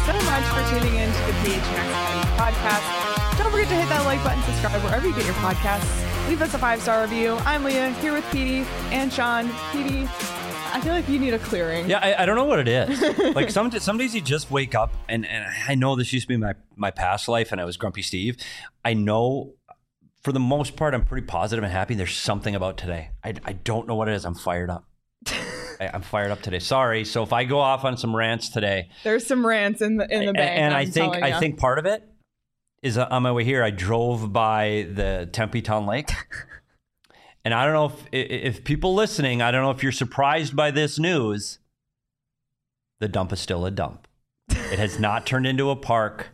so much for tuning in to the PHNX Coyotes podcast. Don't forget to hit that like button, subscribe wherever you get your podcasts. Leave us a 5-star review. I'm Leah, here with Petey and Sean. Petey, I feel like you need a clearing. Yeah, I don't know what it is. Like some days you just wake up, and I know this used to be my past life, and I was Grumpy Steve. I know for the most part I'm pretty positive and happy. There's something about today. I don't know what it is. I'm fired up. I'm fired up today. Sorry. So if I go off on some rants today, there's some rants in the bank. And I think part of it is on my way here, I drove by the Tempe Town Lake. And I don't know if people listening, I don't know if you're surprised by this news. The dump is still a dump. It has not turned into a park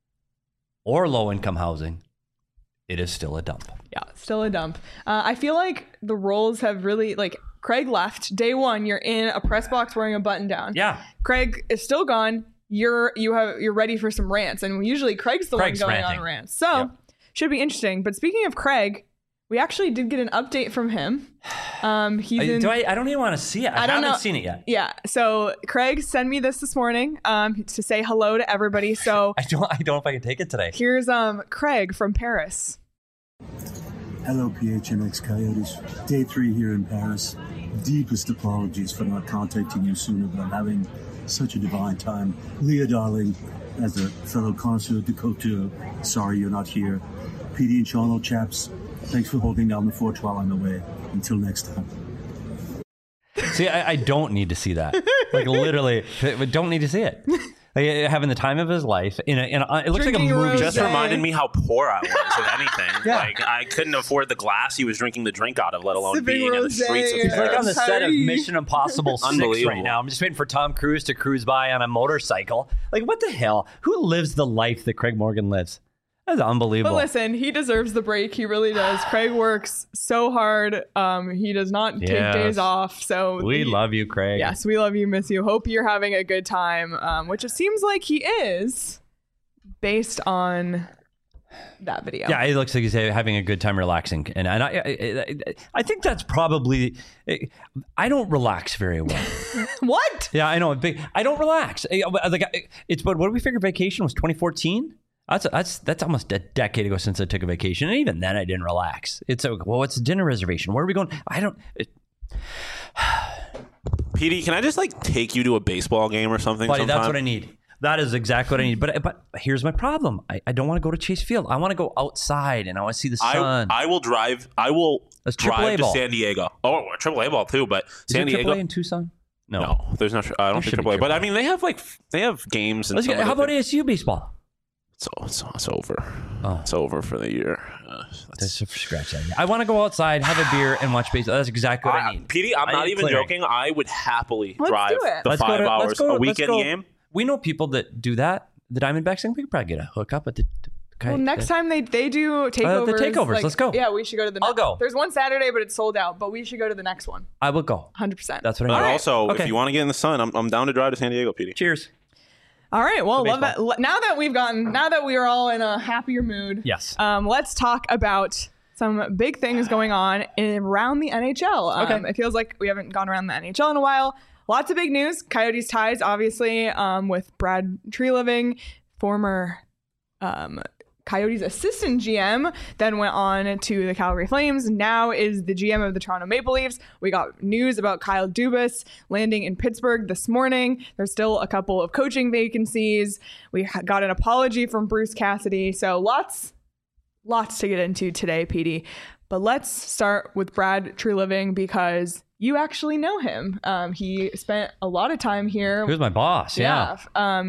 or low-income housing. It is still a dump. Yeah, still a dump. I feel like the roles have really, like, Craig left. Day one, you're in a press box wearing a button down. Yeah. Craig is still gone. You're ready for some rants. And usually Craig's one going ranting on rants. So, Should be interesting. But speaking of Craig, we actually did get an update from him. I don't even want to see it. I haven't seen it yet. Yeah. So Craig sent me this morning to say hello to everybody. So I don't know if I can take it today. Here's Craig from Paris. Hello, PHNX Coyotes. Day 3 here in Paris. Deepest apologies for not contacting you sooner, but I'm having such a divine time. Leah, darling, as a fellow connoisseur de couture, sorry you're not here. PD and Sean, old chaps, thanks for holding down the fort while I'm away. Until next time. See, I don't need to see that. Like, literally, don't need to see it. Like, having the time of his life. It looks drinking like a movie. Just reminded me how poor I was, if anything. Yeah. Like, I couldn't afford the glass he was drinking the drink out of, let alone Sipping being in the streets of He's Paris. like on the set of Mission Impossible 6 Unbelievable. right now. I'm just waiting for Tom Cruise to cruise by on a motorcycle. Like, what the hell? Who lives the life that Craig Morgan lives? That's unbelievable. But listen, he deserves the break. He really does. Craig works so hard. He does not take days off. So we love you, Craig. Yes, we love you, miss you. Hope you're having a good time, which it seems like he is based on that video. Yeah, it looks like he's having a good time relaxing. And I think that's probably... I don't relax very well. What? Yeah, I know. I don't relax. But what did we figure vacation was 2014? That's almost a decade ago since I took a vacation, and even then I didn't relax. It's what's the dinner reservation? Where are we going? I don't. PD, can I just take you to a baseball game or something? Buddy, sometime? that's what I need. That is exactly what I need. But here's my problem. I don't want to go to Chase Field. I want to go outside and I want to see the sun. I will drive. I will drive to San Diego. Oh, AAA ball too, but San Diego. AAA in Tucson? No, there's not. I don't think AAA. But I mean, they have games. And how about ASU baseball? It's over. Oh. It's over for the year. Scratch that. I want to go outside, have a beer, and watch baseball. That's exactly what I need. PD, I'm not even joking. I would happily drive the 5 hours a weekend game. We know people that do that. The Diamondbacks thing, we could probably get a hookup at the... Well, next time they do takeovers. The takeovers, let's go. Yeah, we should go to the next. I'll go. There's one Saturday, but it's sold out. But we should go to the next one. I will go. 100%. That's what I need. Also, if you want to get in the sun, I'm down to drive to San Diego, PD. Cheers. All right. Well, love that. Now that we are all in a happier mood. Yes. Let's talk about some big things going on around the NHL. Okay. It feels like we haven't gone around the NHL in a while. Lots of big news. Coyotes ties, obviously, with Brad Treliving, former Coyotes assistant GM, then went on to the Calgary Flames, now is the GM of the Toronto Maple Leafs. We got news about Kyle Dubas landing in Pittsburgh this morning. There's still a couple of coaching vacancies. We got an apology from Bruce Cassidy. So lots to get into today, PD. But let's start with Brad Treliving because you actually know him. He spent a lot of time here. He was my boss, yeah.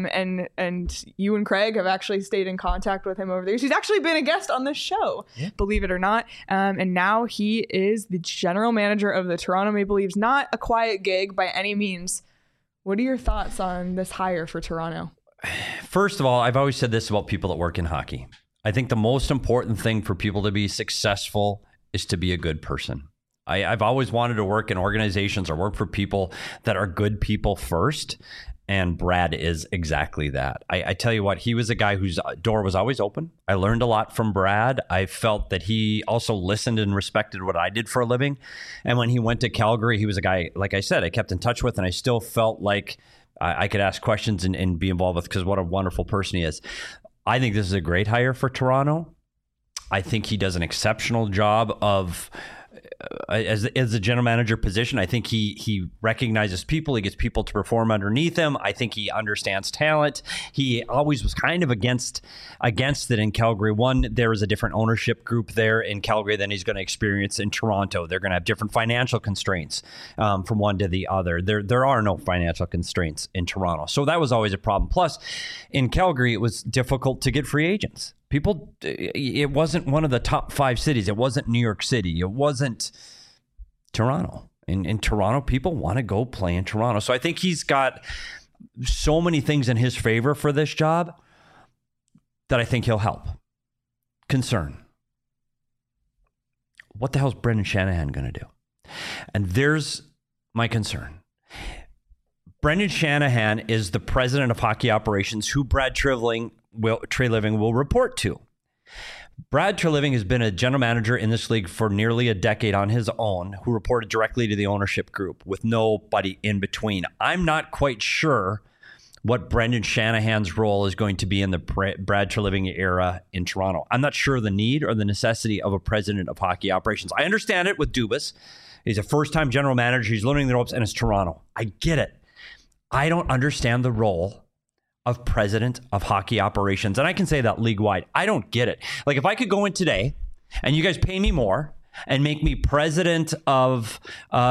And you and Craig have actually stayed in contact with him over the years. He's actually been a guest on this show, believe it or not. And now he is the general manager of the Toronto Maple Leafs. Not a quiet gig by any means. What are your thoughts on this hire for Toronto? First of all, I've always said this about people that work in hockey. I think the most important thing for people to be successful is to be a good person. I've always wanted to work in organizations or work for people that are good people first. And Brad is exactly that. I tell you what, he was a guy whose door was always open. I learned a lot from Brad. I felt that he also listened and respected what I did for a living. And when he went to Calgary, he was a guy, like I said, I kept in touch with, and I still felt like I could ask questions and be involved with, because what a wonderful person he is. I think this is a great hire for Toronto. I think he does an exceptional job of as a general manager position. I think he recognizes people. He gets people to perform underneath him. I think he understands talent. He always was kind of against it in Calgary. One, there is a different ownership group there in Calgary than he's going to experience in Toronto. They're going to have different financial constraints from one to the other. There are no financial constraints in Toronto. So that was always a problem. Plus, in Calgary, it was difficult to get free agents. People, it wasn't one of the top 5 cities. It wasn't New York City. It wasn't Toronto. In Toronto, people want to go play in Toronto. So I think he's got so many things in his favor for this job that I think he'll help. Concern. What the hell is Brendan Shanahan going to do? And there's my concern. Brendan Shanahan is the president of hockey operations, who Brad Treliving will report to. Brad Treliving has been a general manager in this league for nearly a decade on his own, who reported directly to the ownership group with nobody in between. I'm not quite sure what Brendan Shanahan's role is going to be in the Brad Treliving era in Toronto. I'm not sure the need or the necessity of a president of hockey operations. I understand it with Dubas. He's a first-time general manager. He's learning the ropes, and it's Toronto. I get it. I don't understand the role of president of hockey operations. And I can say that league-wide. I don't get it. Like, if I could go in today and you guys pay me more and make me president of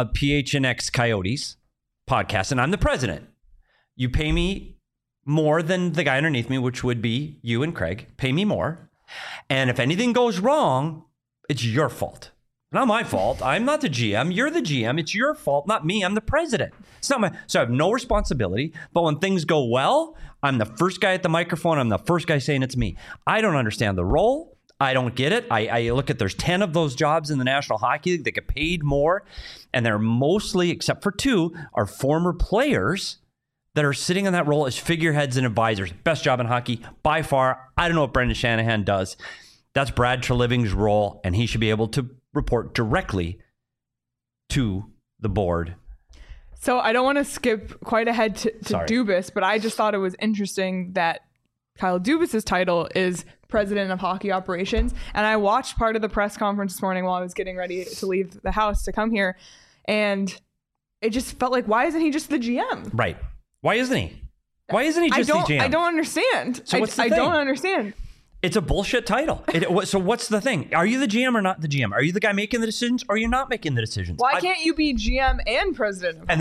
PHNX Coyotes podcast, and I'm the president, you pay me more than the guy underneath me, which would be you and Craig. Pay me more. And if anything goes wrong, it's your fault. Not my fault. I'm not the GM. You're the GM. It's your fault, not me. I'm the president. It's not my. So I have no responsibility. But when things go well, I'm the first guy at the microphone. I'm the first guy saying it's me. I don't understand the role. I don't get it. I look at, there's 10 of those jobs in the National Hockey League that get paid more. And they're mostly, except for 2, are former players that are sitting in that role as figureheads and advisors. Best job in hockey by far. I don't know what Brendan Shanahan does. That's Brad Treliving's role, and he should be able to report directly to the board. So I don't want to skip quite ahead to Dubas, but I just thought it was interesting that Kyle Dubas's title is president of hockey operations. And I watched part of the press conference this morning while I was getting ready to leave the house to come here. And it just felt like, why isn't he just the GM? Right. Why isn't he? Why isn't he just the GM? I don't understand. So what's the thing? I don't understand. It's a bullshit title. So what's the thing? Are you the GM or not the GM? Are you the guy making the decisions or are you not making the decisions? Why can't you be GM and president? And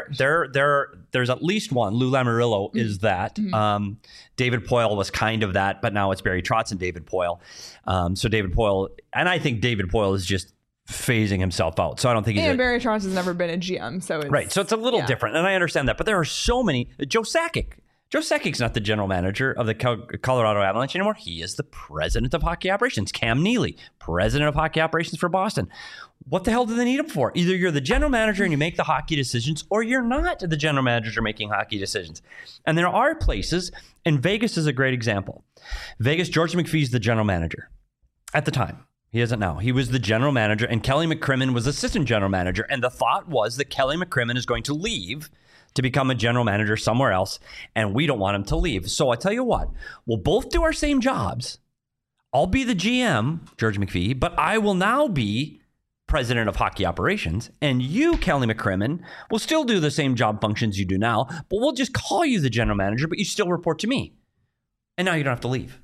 there's at least one. Lou Lamoriello is that. Mm-hmm. David Poile was kind of that, but now it's Barry Trotz and David Poile. So David Poile, and I think David Poile is just phasing himself out. So I don't think he's Barry Trotz has never been a GM. So it's, right. So it's a little different. And I understand that. But there are so many. Joe Sakic. Joe Sakic's not the general manager of the Colorado Avalanche anymore. He is the president of hockey operations. Cam Neely, president of hockey operations for Boston. What the hell do they need him for? Either you're the general manager and you make the hockey decisions, or you're not the general manager making hockey decisions. And there are places, and Vegas is a great example. Vegas, George McPhee's the general manager at the time. He isn't now. He was the general manager, and Kelly McCrimmon was assistant general manager. And the thought was that Kelly McCrimmon is going to leave to become a general manager somewhere else, and we don't want him to leave. So I tell you what, we'll both do our same jobs. I'll be the GM, George McPhee, but I will now be president of hockey operations, and you, Kelly McCrimmon, will still do the same job functions you do now, but we'll just call you the general manager, but you still report to me. And now you don't have to leave.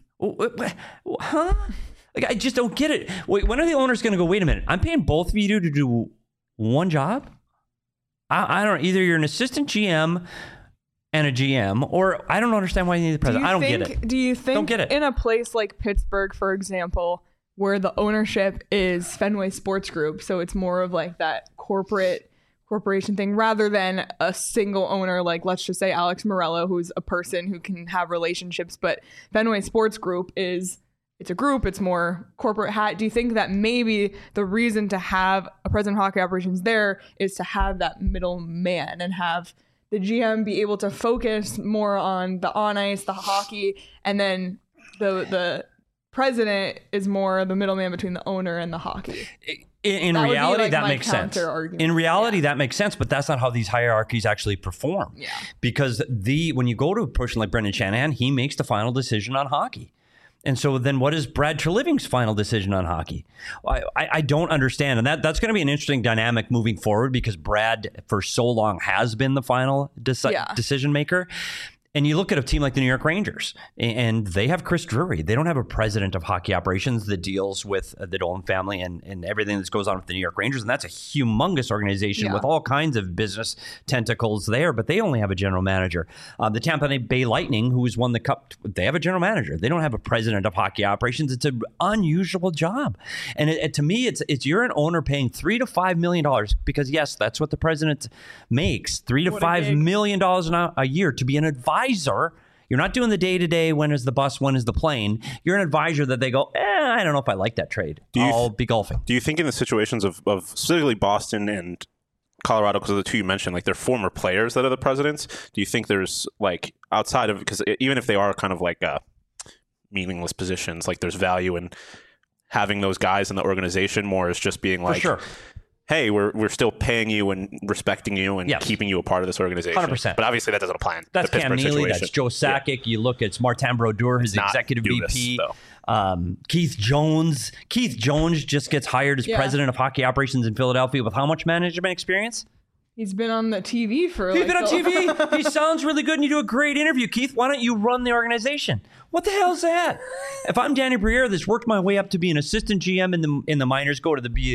Huh? Like, I just don't get it. Wait, when are the owners going to go, wait a minute, I'm paying both of you to do one job? I don't. Either you're an assistant GM and a GM, or I don't understand why you need the president. I don't get it. Do you think don't get it. In a place like Pittsburgh, for example, where the ownership is Fenway Sports Group, so it's more of like that corporation thing rather than a single owner, like let's just say Alex Morello, who's a person who can have relationships, but Fenway Sports Group it's a group, it's more corporate hat. Do you think that maybe the reason to have a president of hockey operations there is to have that middleman and have the GM be able to focus more on the on ice, the hockey, and then the president is more the middleman between the owner and the hockey? In That would be, reality, like, that my makes sense. counter-argument. In reality, that makes sense, but that's not how these hierarchies actually perform. Yeah. Because when you go to a person like Brendan Shanahan, he makes the final decision on hockey. And so then what is Brad Treliving's final decision on hockey? I don't understand. And that's going to be an interesting dynamic moving forward because Brad, for so long, has been the final decision maker. And you look at a team like the New York Rangers, and they have Chris Drury. They don't have a president of hockey operations that deals with the Dolan family and everything that goes on with the New York Rangers. And that's a humongous organization with all kinds of business tentacles there, but they only have a general manager. The Tampa Bay Lightning, who's won the Cup, they have a general manager. They don't have a president of hockey operations. It's an unusual job. And to me, it's you're an owner paying $3 to $5 million because, yes, that's what the president makes, $3 to $5 million a year to be an advisor. You're not doing the day-to-day, when is the bus, when is the plane. You're an advisor that they go, I don't know if I like that trade. I'll be golfing. Do you think in the situations of specifically Boston and Colorado, because of the two you mentioned, like they're former players that are the presidents, do you think there's like outside of, because even if they are kind of like meaningless positions, like there's value in having those guys in the organization more as just being like, for sure. Hey, we're still paying you and respecting you and keeping you a part of this organization. 100%. But obviously that doesn't apply. That's Cam Neely. That's Joe Sakic. Yeah. You look at Martin Brodeur, his executive VP. Keith Jones. Keith Jones just gets hired as president of hockey operations in Philadelphia with how much management experience? He's been on the TV for He's been on TV. He sounds really good and you do a great interview. Keith, why don't you run the organization? What the hell is that? If I'm Danny Briere, that's worked my way up to be an assistant GM in the minors, go to the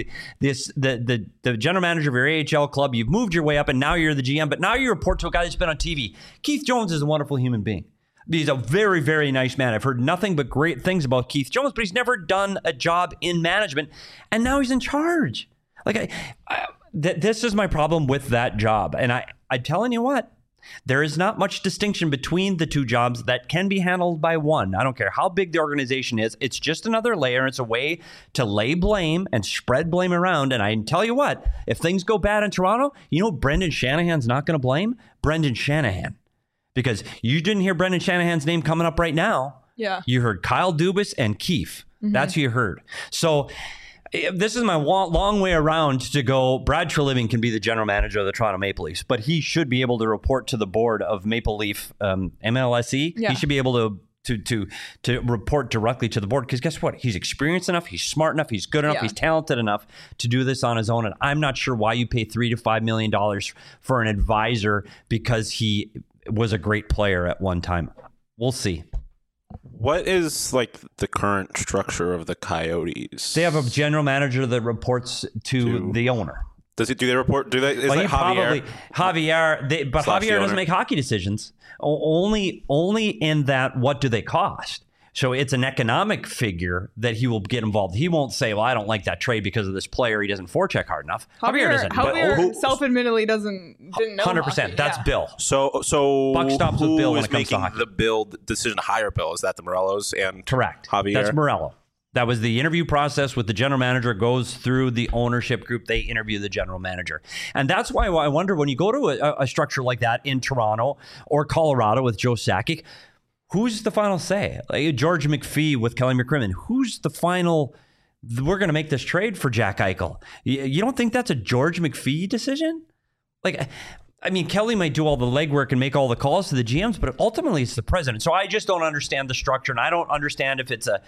general manager of your AHL club. You've moved your way up and now you're the GM, but now you report to a guy that's been on TV. Keith Jones is a wonderful human being. He's a very, very nice man. I've heard nothing but great things about Keith Jones, but he's never done a job in management, and now he's in charge. Like, this is my problem with that job. And I'm telling you what, there is not much distinction between the two jobs that can be handled by one. I don't care how big the organization is. It's just another layer. It's a way to lay blame and spread blame around. And I tell you what, if things go bad in Toronto, you know Brendan Shanahan's not going to blame? Brendan Shanahan. Because you didn't hear Brendan Shanahan's name coming up right now. Yeah. You heard Kyle Dubas and Keefe. Mm-hmm. That's who you heard. So this is my long way around to go. Brad Treliving can be the general manager of the Toronto Maple Leafs, but he should be able to report to the board of Maple Leaf MLSE. Yeah. He should be able to report directly to the board because guess what? He's experienced enough, he's smart enough, he's good enough, he's talented enough to do this on his own. And I'm not sure why you pay $3 to $5 million for an advisor because he was a great player at one time. We'll see. What is like the current structure of the Coyotes? They have a general manager that reports to the owner. Do they report? Do they? Is well, that Javier? Javier, but Javier doesn't make hockey decisions. Only in that. What do they cost? So it's an economic figure that he will get involved. He won't say, well, I don't like that trade because of this player. He doesn't forecheck hard enough. Javier doesn't. Javier self-admittedly didn't know 100%. Hockey. That's Bill. So buck stops with Bill when it comes to hockey. The Bill decision to hire Bill? Is that the Morellos and correct? Javier? That's Morello. That was the interview process with the general manager. Goes through the ownership group. They interview the general manager. And that's why I wonder when you go to a structure like that in Toronto or Colorado with Joe Sakic, who's the final say? Like George McPhee with Kelly McCrimmon. Who's the final? We're going to make this trade for Jack Eichel. You don't think that's a George McPhee decision? Like, I mean, Kelly might do all the legwork and make all the calls to the GMs, but ultimately it's the president. So I just don't understand the structure, and I don't understand if it's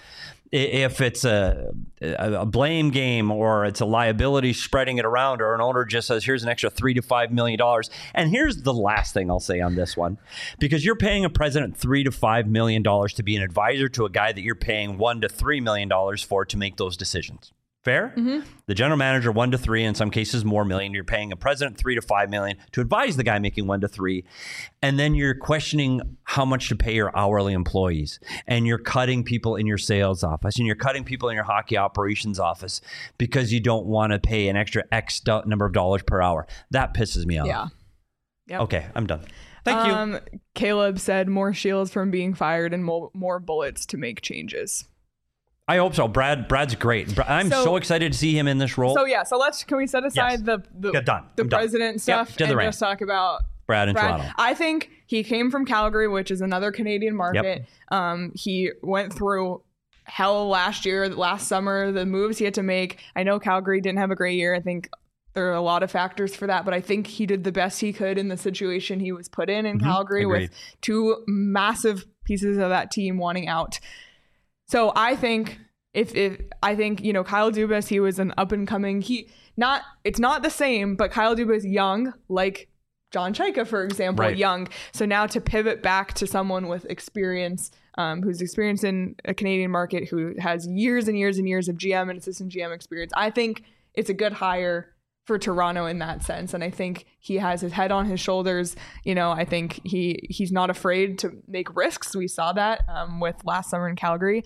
a blame game or it's a liability spreading it around, or an owner just says, here's an extra $3 to $5 million. And here's the last thing I'll say on this one, because you're paying a president $3 to $5 million to be an advisor to a guy that you're paying $1 to $3 million for to make those decisions. Fair? Mm-hmm. The general manager 1 to 3, in some cases more million. You're paying a president $3 to $5 million to advise the guy making 1 to 3, and then you're questioning how much to pay your hourly employees, and you're cutting people in your sales office, and you're cutting people in your hockey operations office because you don't want to pay an extra X number of dollars per hour. That pisses me off. Yeah. Yep. Okay, I'm done. Thank you. Caleb said more Shields from being fired and more bullets to make changes. I hope so. Brad's great. I'm so excited to see him in this role. So can we set aside the president stuff and just talk about Brad in Toronto. I think he came from Calgary, which is another Canadian market. Yep. He went through hell last summer, the moves he had to make. I know Calgary didn't have a great year. I think there are a lot of factors for that, but I think he did the best he could in the situation he was put in Calgary. Agreed. With two massive pieces of that team wanting out. So I think I think Kyle Dubas, he was an up and coming. It's not the same, but Kyle Dubas young, like John Chayka, for example, right. Young. So now to pivot back to someone with experience, who's experienced in a Canadian market, who has years and years and years of GM and assistant GM experience, I think it's a good hire for Toronto in that sense. And I think he has his head on his shoulders. I think he's not afraid to make risks. We saw that with last summer in Calgary.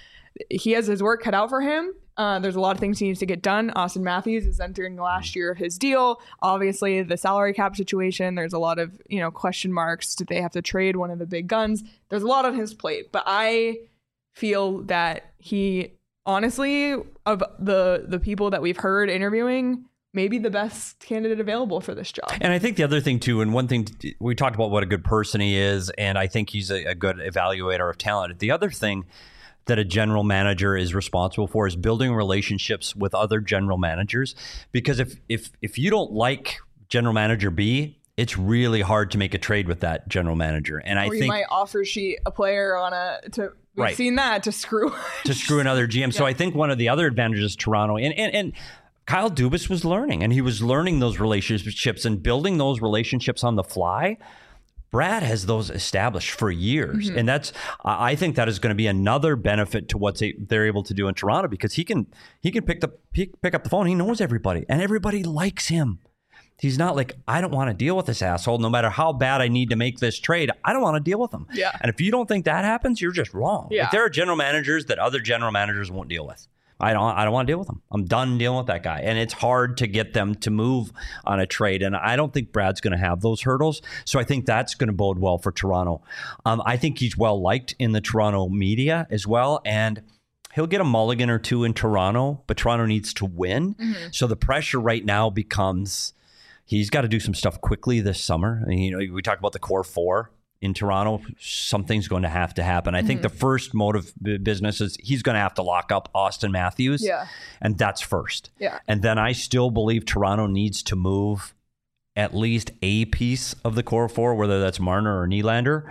He has his work cut out for him. There's a lot of things he needs to get done. Austin Matthews is entering the last year of his deal. Obviously, the salary cap situation, there's a lot of, question marks. Did they have to trade one of the big guns? There's a lot on his plate. But I feel that he, honestly, of the people that we've heard interviewing, maybe the best candidate available for this job. And I think the other thing, too, and one thing, we talked about what a good person he is, and I think he's a good evaluator of talent. The other thing that a general manager is responsible for is building relationships with other general managers. Because if you don't like general manager B, it's really hard to make a trade with that general manager. And I think you might offer sheet a player we've right. seen that to screw another GM. Yeah. So I think one of the other advantages of Toronto and Kyle Dubas was learning, and he was learning those relationships and building those relationships on the fly. Brad has those established for years. Mm-hmm. And I think that is going to be another benefit to what they're able to do in Toronto, because he can pick up the phone. He knows everybody, and everybody likes him. He's not like, I don't want to deal with this asshole. No matter how bad I need to make this trade, I don't want to deal with him. Yeah. And if you don't think that happens, you're just wrong. Yeah. Like, there are general managers that other general managers won't deal with. I don't want to deal with them. I'm done dealing with that guy. And it's hard to get them to move on a trade. And I don't think Brad's going to have those hurdles. So I think that's going to bode well for Toronto. I think he's well liked in the Toronto media as well. And he'll get a mulligan or two in Toronto, but Toronto needs to win. Mm-hmm. So the pressure right now becomes he's got to do some stuff quickly this summer. I mean, we talked about the core four. In Toronto, something's going to have to happen. I think the first mode of business is he's going to have to lock up Austin Matthews. Yeah. And that's first. Yeah. And then I still believe Toronto needs to move at least a piece of the core four, whether that's Marner or Nylander.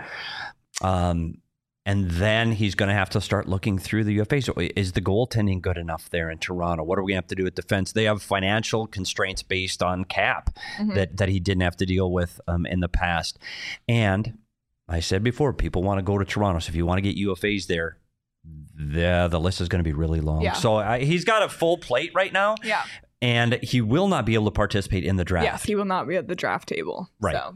And then he's going to have to start looking through the UFA. So is the goaltending good enough there in Toronto? What are we going to have to do with defense? They have financial constraints based on cap that he didn't have to deal with in the past. And I said before, people want to go to Toronto. So if you want to get UFAs there, the list is going to be really long. Yeah. So he's got a full plate right now. Yeah. And he will not be able to participate in the draft. Yes, he will not be at the draft table. Right. So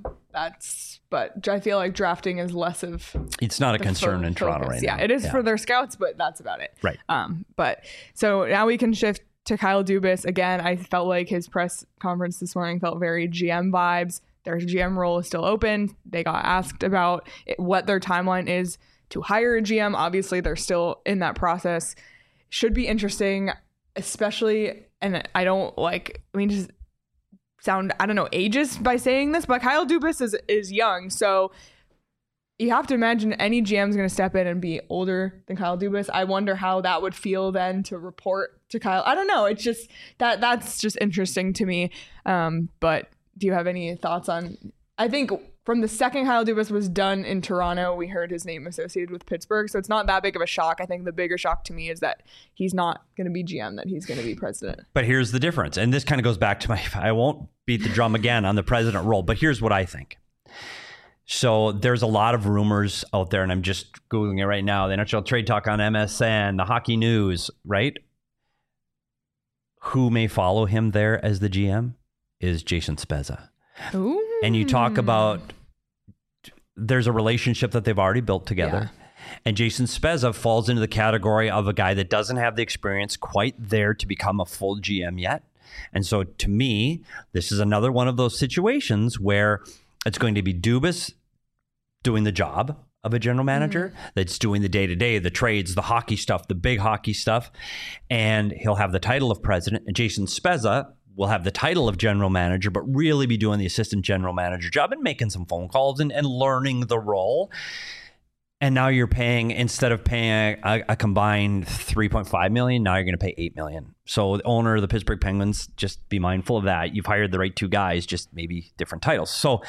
but I feel like drafting is less of... It's not a concern in Toronto right now. Yeah, it is for their scouts, but that's about it. Right. But so now we can shift to Kyle Dubas. Again, I felt like his press conference this morning felt very GM vibes. Their GM role is still open. They got asked about what their timeline is to hire a GM. Obviously, they're still in that process. Should be interesting, especially, and I don't just sound, ageist by saying this, but Kyle Dubas is young. So you have to imagine any GM is going to step in and be older than Kyle Dubas. I wonder how that would feel then to report to Kyle. I don't know. It's just that's just interesting to me. But do you have any thoughts on, I think from the second Kyle Dubas was done in Toronto, we heard his name associated with Pittsburgh. So it's not that big of a shock. I think the bigger shock to me is that he's not going to be GM, that he's going to be president. But here's the difference. And this kind of goes back to I won't beat the drum again on the president role, but here's what I think. So there's a lot of rumors out there, and I'm just Googling it right now. The NHL Trade Talk on MSN, the Hockey News, right? Who may follow him there as the GM? Is Jason Spezza. Ooh. And you talk about there's a relationship that they've already built together. Yeah. And Jason Spezza falls into the category of a guy that doesn't have the experience quite there to become a full GM yet. And so to me, this is another one of those situations where it's going to be Dubas doing the job of a general manager that's doing the day-to-day, the trades, the hockey stuff, the big hockey stuff. And he'll have the title of president. And Jason Spezza will have the title of general manager, but really be doing the assistant general manager job and making some phone calls and learning the role. And now you're paying, instead of paying a combined $3.5 million, now you're going to pay $8 million. So the owner of the Pittsburgh Penguins, just be mindful of that. You've hired the right two guys, just maybe different titles. So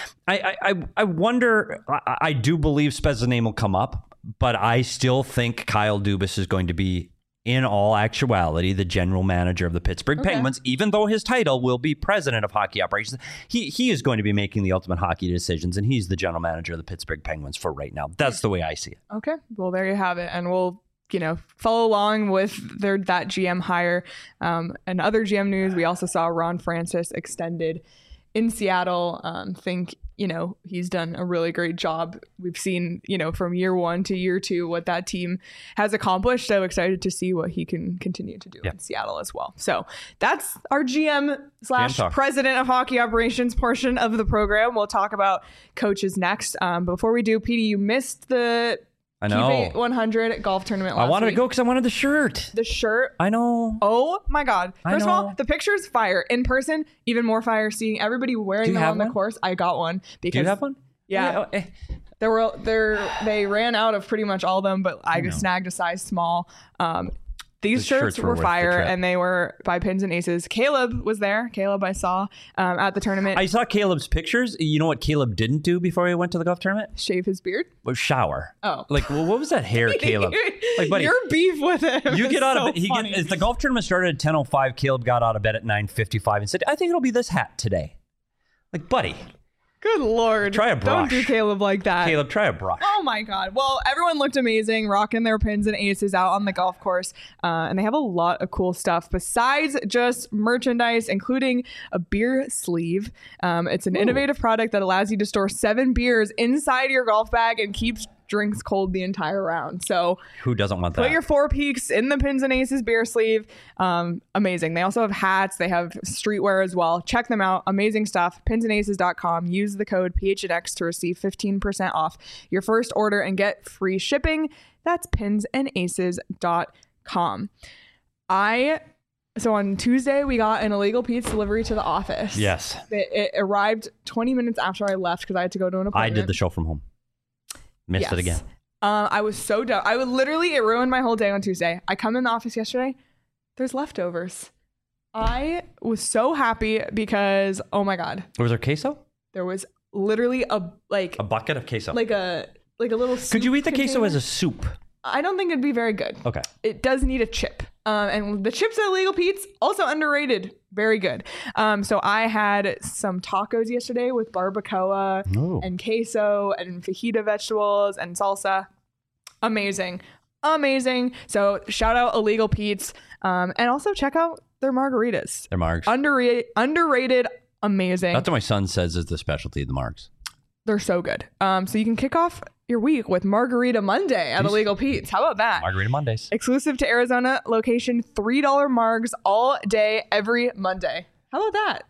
I wonder, I do believe Spezza's name will come up, but I still think Kyle Dubas is going to be, in all actuality, the general manager of the Pittsburgh Penguins, even though his title will be president of hockey operations. He is going to be making the ultimate hockey decisions, and he's the general manager of the Pittsburgh Penguins for right now. That's the way I see it. Okay. Well, there you have it. And we'll, follow along with that GM hire. And other GM news, we also saw Ron Francis extended in Seattle. Think, he's done a really great job. We've seen, from year 1 to year 2, what that team has accomplished. So excited to see what he can continue to do in Seattle as well. So that's our GM / president of hockey operations portion of the program. We'll talk about coaches next. Before we do, Petey, you missed the I know. 100 golf tournament last I wanted week. to go because I wanted the shirt. The shirt. I know. Oh my God. First of all, know. the picture's fire. In person, even more fire. Seeing everybody wearing them on the course. I got one. Because, do you have one? Yeah. They ran out of pretty much all of them, but I snagged a size small. These shirts were fire, and they were by Pins and Aces. Caleb was there. Caleb I saw at the tournament. I saw Caleb's pictures. You know what Caleb didn't do before he went to the golf tournament? Shave his beard? Was shower. Oh. Like, well, what was that hair, Caleb? Like, buddy, your beef with him. You get out of bed. Funny. The golf tournament started at 10:05. Caleb got out of bed at 9:55 and said, I think it'll be this hat today. Like, buddy. Good Lord. Try a brush. Don't do Caleb like that. Caleb, try a brush. Oh my God. Well, everyone looked amazing, rocking their Pins and Aces out on the golf course. And they have a lot of cool stuff besides just merchandise, including a beer sleeve. It's an innovative product that allows you to store 7 beers inside your golf bag and keeps drinks cold the entire round. So who doesn't want that? Put your 4 Peaks in the Pins and Aces beer sleeve. Amazing. They also have hats. They have streetwear as well. Check them out. Amazing stuff. Pinsandaces.com. Use the code PHNX to receive 15% off your first order and get free shipping. That's pinsandaces.com. So on Tuesday, we got an Illegal Pete's delivery to the office. Yes. It arrived 20 minutes after I left because I had to go to an appointment. I did the show from home. Missed it again. I was so dumb. It ruined my whole day on Tuesday. I come in the office yesterday. There's leftovers. I was so happy because, oh my God. Was there queso? There was literally a bucket of queso. Like a little soup Could you eat the container. queso as a soup? I don't think it'd be very good. Okay. It does need a chip. And the chips at Illegal Pete's, also underrated. Very good. So I had some tacos yesterday with barbacoa and queso and fajita vegetables and salsa. Amazing. So shout out Illegal Pete's. And also check out their margaritas. Their margs. Underrated. Amazing. That's what my son says is the specialty of the margs. They're so good. So you can kick off your week with Margarita Monday at Illegal Pete's. How about that? Margarita Mondays. Exclusive to Arizona location, $3 margs all day, every Monday. How about that?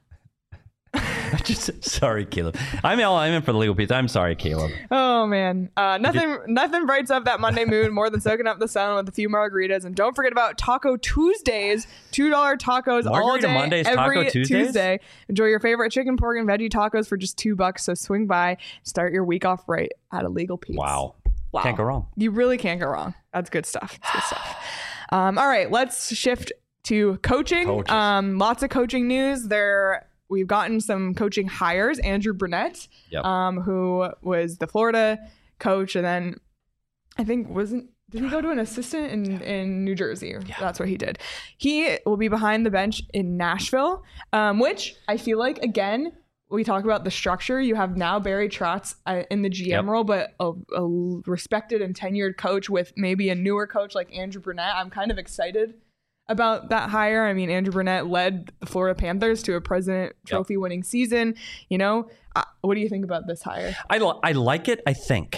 Sorry, Caleb. I'm in for the Legal Pete's. I'm sorry, Caleb. Oh man, nothing brights up that Monday mood more than soaking up the sun with a few margaritas. And don't forget about Taco Tuesdays, $2 tacos all day, Mondays, every Taco Tuesdays? Tuesday. Enjoy your favorite chicken, pork, and veggie tacos for just $2. So swing by, start your week off right at Illegal Pete's. Wow. Can't go wrong. You really can't go wrong. That's good stuff. All right, let's shift to coaching. Lots of coaching news. We've gotten some coaching hires. Andrew Brunette, who was the Florida coach, and then I think did he go to an assistant in New Jersey? Yeah. That's what he did. He will be behind the bench in Nashville, which I feel like, again, we talk about the structure. You have now Barry Trotz in the GM role, but a respected and tenured coach with maybe a newer coach like Andrew Brunette. I'm kind of excited about that hire. I mean, Andrew Brunette led the Florida Panthers to a President Trophy winning season. What do you think about this hire? I like it, I think.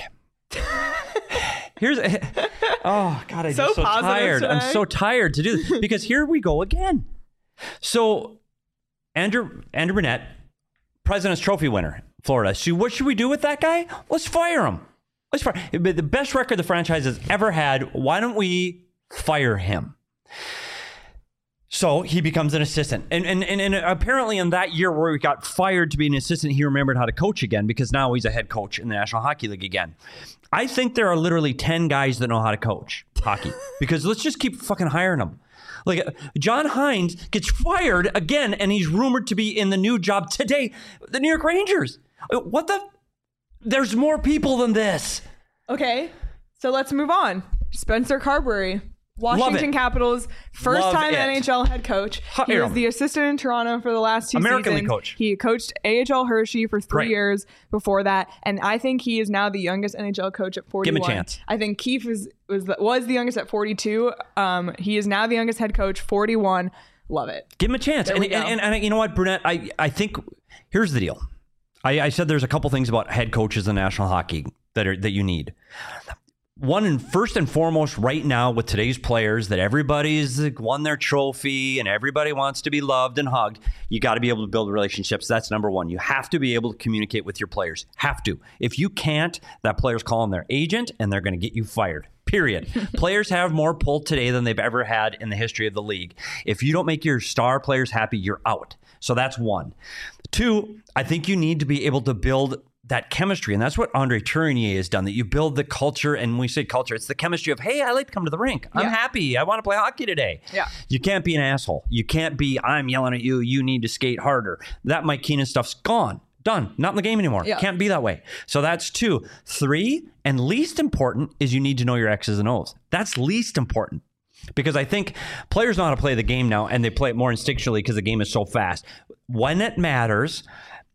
Oh God, I'm so tired. Today. I'm so tired to do this because here we go again. So Andrew Brunette, President's Trophy winner, Florida. So what should we do with that guy? Let's fire him. The best record the franchise has ever had. Why don't we fire him? So he becomes an assistant. And apparently in that year where he got fired to be an assistant, he remembered how to coach again because now he's a head coach in the National Hockey League again. I think there are literally 10 guys that know how to coach hockey because let's just keep fucking hiring them. Like John Hines gets fired again and he's rumored to be in the new job today, the New York Rangers. What the? There's more people than this. Okay, so let's move on. Spencer Carberry. Washington Capitals, first time NHL head coach. He was the assistant in Toronto for the last 2 American seasons. League coach. He coached AHL Hershey for 3 years before that, and I think he is now the youngest NHL coach at 41. Give him a chance. I think Keefe was the youngest at 42. He is now the youngest head coach, 41. Love it. Give him a chance. And you know what, Brunette? I think here's the deal. I said there's a couple things about head coaches in National Hockey that you need. One and first and foremost right now with today's players that everybody's won their trophy and everybody wants to be loved and hugged, you got to be able to build relationships. That's number one. You have to be able to communicate with your players. Have to. If you can't, that player's calling their agent and they're going to get you fired. Period. Players have more pull today than they've ever had in the history of the league. If you don't make your star players happy, you're out. So that's one. Two, I think you need to be able to build that chemistry. And that's what Andre Tourigny has done, that you build the culture. And when we say culture, it's the chemistry of, hey, I like to come to the rink. I'm happy. I want to play hockey today. Yeah. You can't be an asshole. You can't be, I'm yelling at you. You need to skate harder. That Mike Keenan stuff's gone. Done. Not in the game anymore. Yeah. Can't be that way. So that's two. Three, and least important, is you need to know your X's and O's. That's least important. Because I think players know how to play the game now, and they play it more instinctually because the game is so fast. When it matters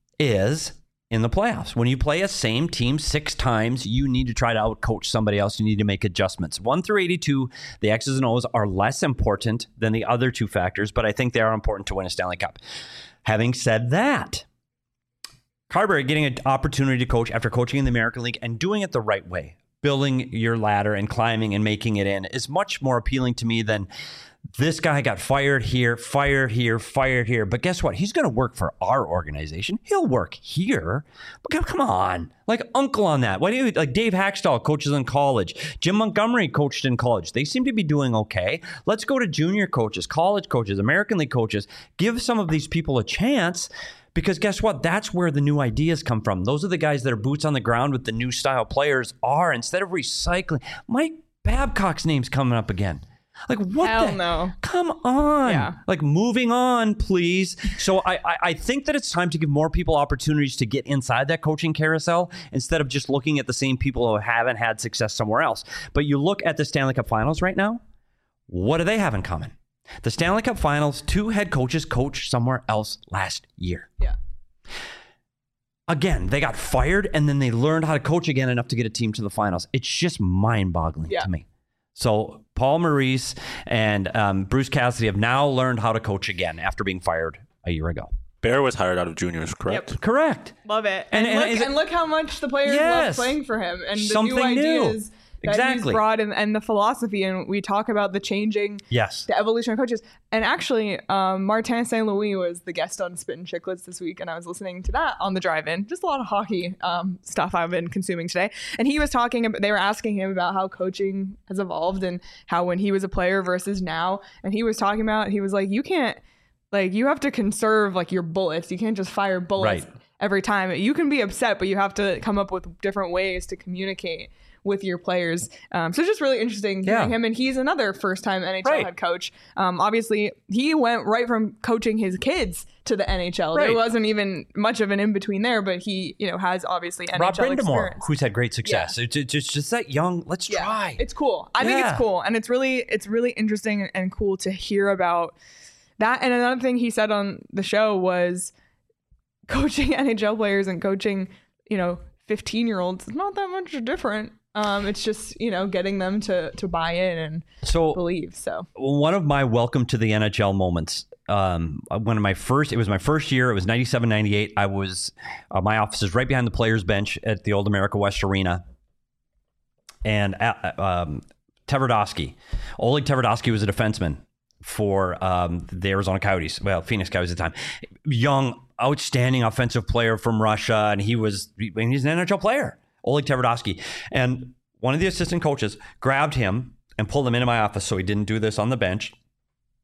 is in the playoffs. When you play a same team 6 times, you need to try to outcoach somebody else. You need to make adjustments. 1 through 82, the X's and O's are less important than the other 2 factors, but I think they are important to win a Stanley Cup. Having said that, Carberry getting an opportunity to coach after coaching in the American League and doing it the right way, building your ladder and climbing and making it in, is much more appealing to me than this guy got fired here, fired here, fired here. But guess what? He's going to work for our organization. He'll work here. But come on. Like uncle on that. Why do you, like Dave Hackstall coaches in college. Jim Montgomery coached in college. They seem to be doing okay. Let's go to junior coaches, college coaches, American League coaches. Give some of these people a chance. Because guess what? That's where the new ideas come from. Those are the guys that are boots on the ground with the new style players are. Instead of recycling, Mike Babcock's name's coming up again. Like what? Hell no. Come on. Yeah. Like moving on, please. So I think that it's time to give more people opportunities to get inside that coaching carousel instead of just looking at the same people who haven't had success somewhere else. But you look at the Stanley Cup Finals right now. What do they have in common? The Stanley Cup Finals, 2 head coaches coached somewhere else last year. Yeah. Again, they got fired and then they learned how to coach again enough to get a team to the finals. It's just mind-boggling to me. So Paul Maurice and Bruce Cassidy have now learned how to coach again after being fired a year ago. Bear was hired out of juniors, correct? Yep. Correct. Love it. And look how much the players love playing for him and the new ideas that he's brought and the philosophy. And we talk about the changing, the evolution of coaches. And actually, Martin St. Louis was the guest on Spittin' Chicklets this week, and I was listening to that on the drive-in. Just a lot of hockey stuff I've been consuming today. And he was talking about, they were asking him about how coaching has evolved and how when he was a player versus now. And he was talking about, he was like, you can't, like, you have to conserve like your bullets. You can't just fire bullets every time. You can be upset, but you have to come up with different ways to communicate with your players. So it's just really interesting hearing him. And he's another first-time NHL head coach. Obviously, he went right from coaching his kids to the NHL. There wasn't even much of an in-between there, but he, has obviously NHL Rob Brindamore, experience. Who's had great success. It's just that young, let's try. It's cool. I think it's cool. And it's really interesting and cool to hear about that. And another thing he said on the show was coaching NHL players and coaching, 15-year-olds is not that much different. It's just, getting them to buy in and believe. So one of my welcome to the NHL moments, it was my first year. It was 97, 98. I was, my office is right behind the players bench at the old America West Arena. And Tverdovsky, Oleg Tverdovsky was a defenseman for the Arizona Coyotes. Well, Phoenix Coyotes at the time. Young, outstanding offensive player from Russia. And he's an NHL player. Oleg Tverdovsky. And one of the assistant coaches grabbed him and pulled him into my office so he didn't do this on the bench.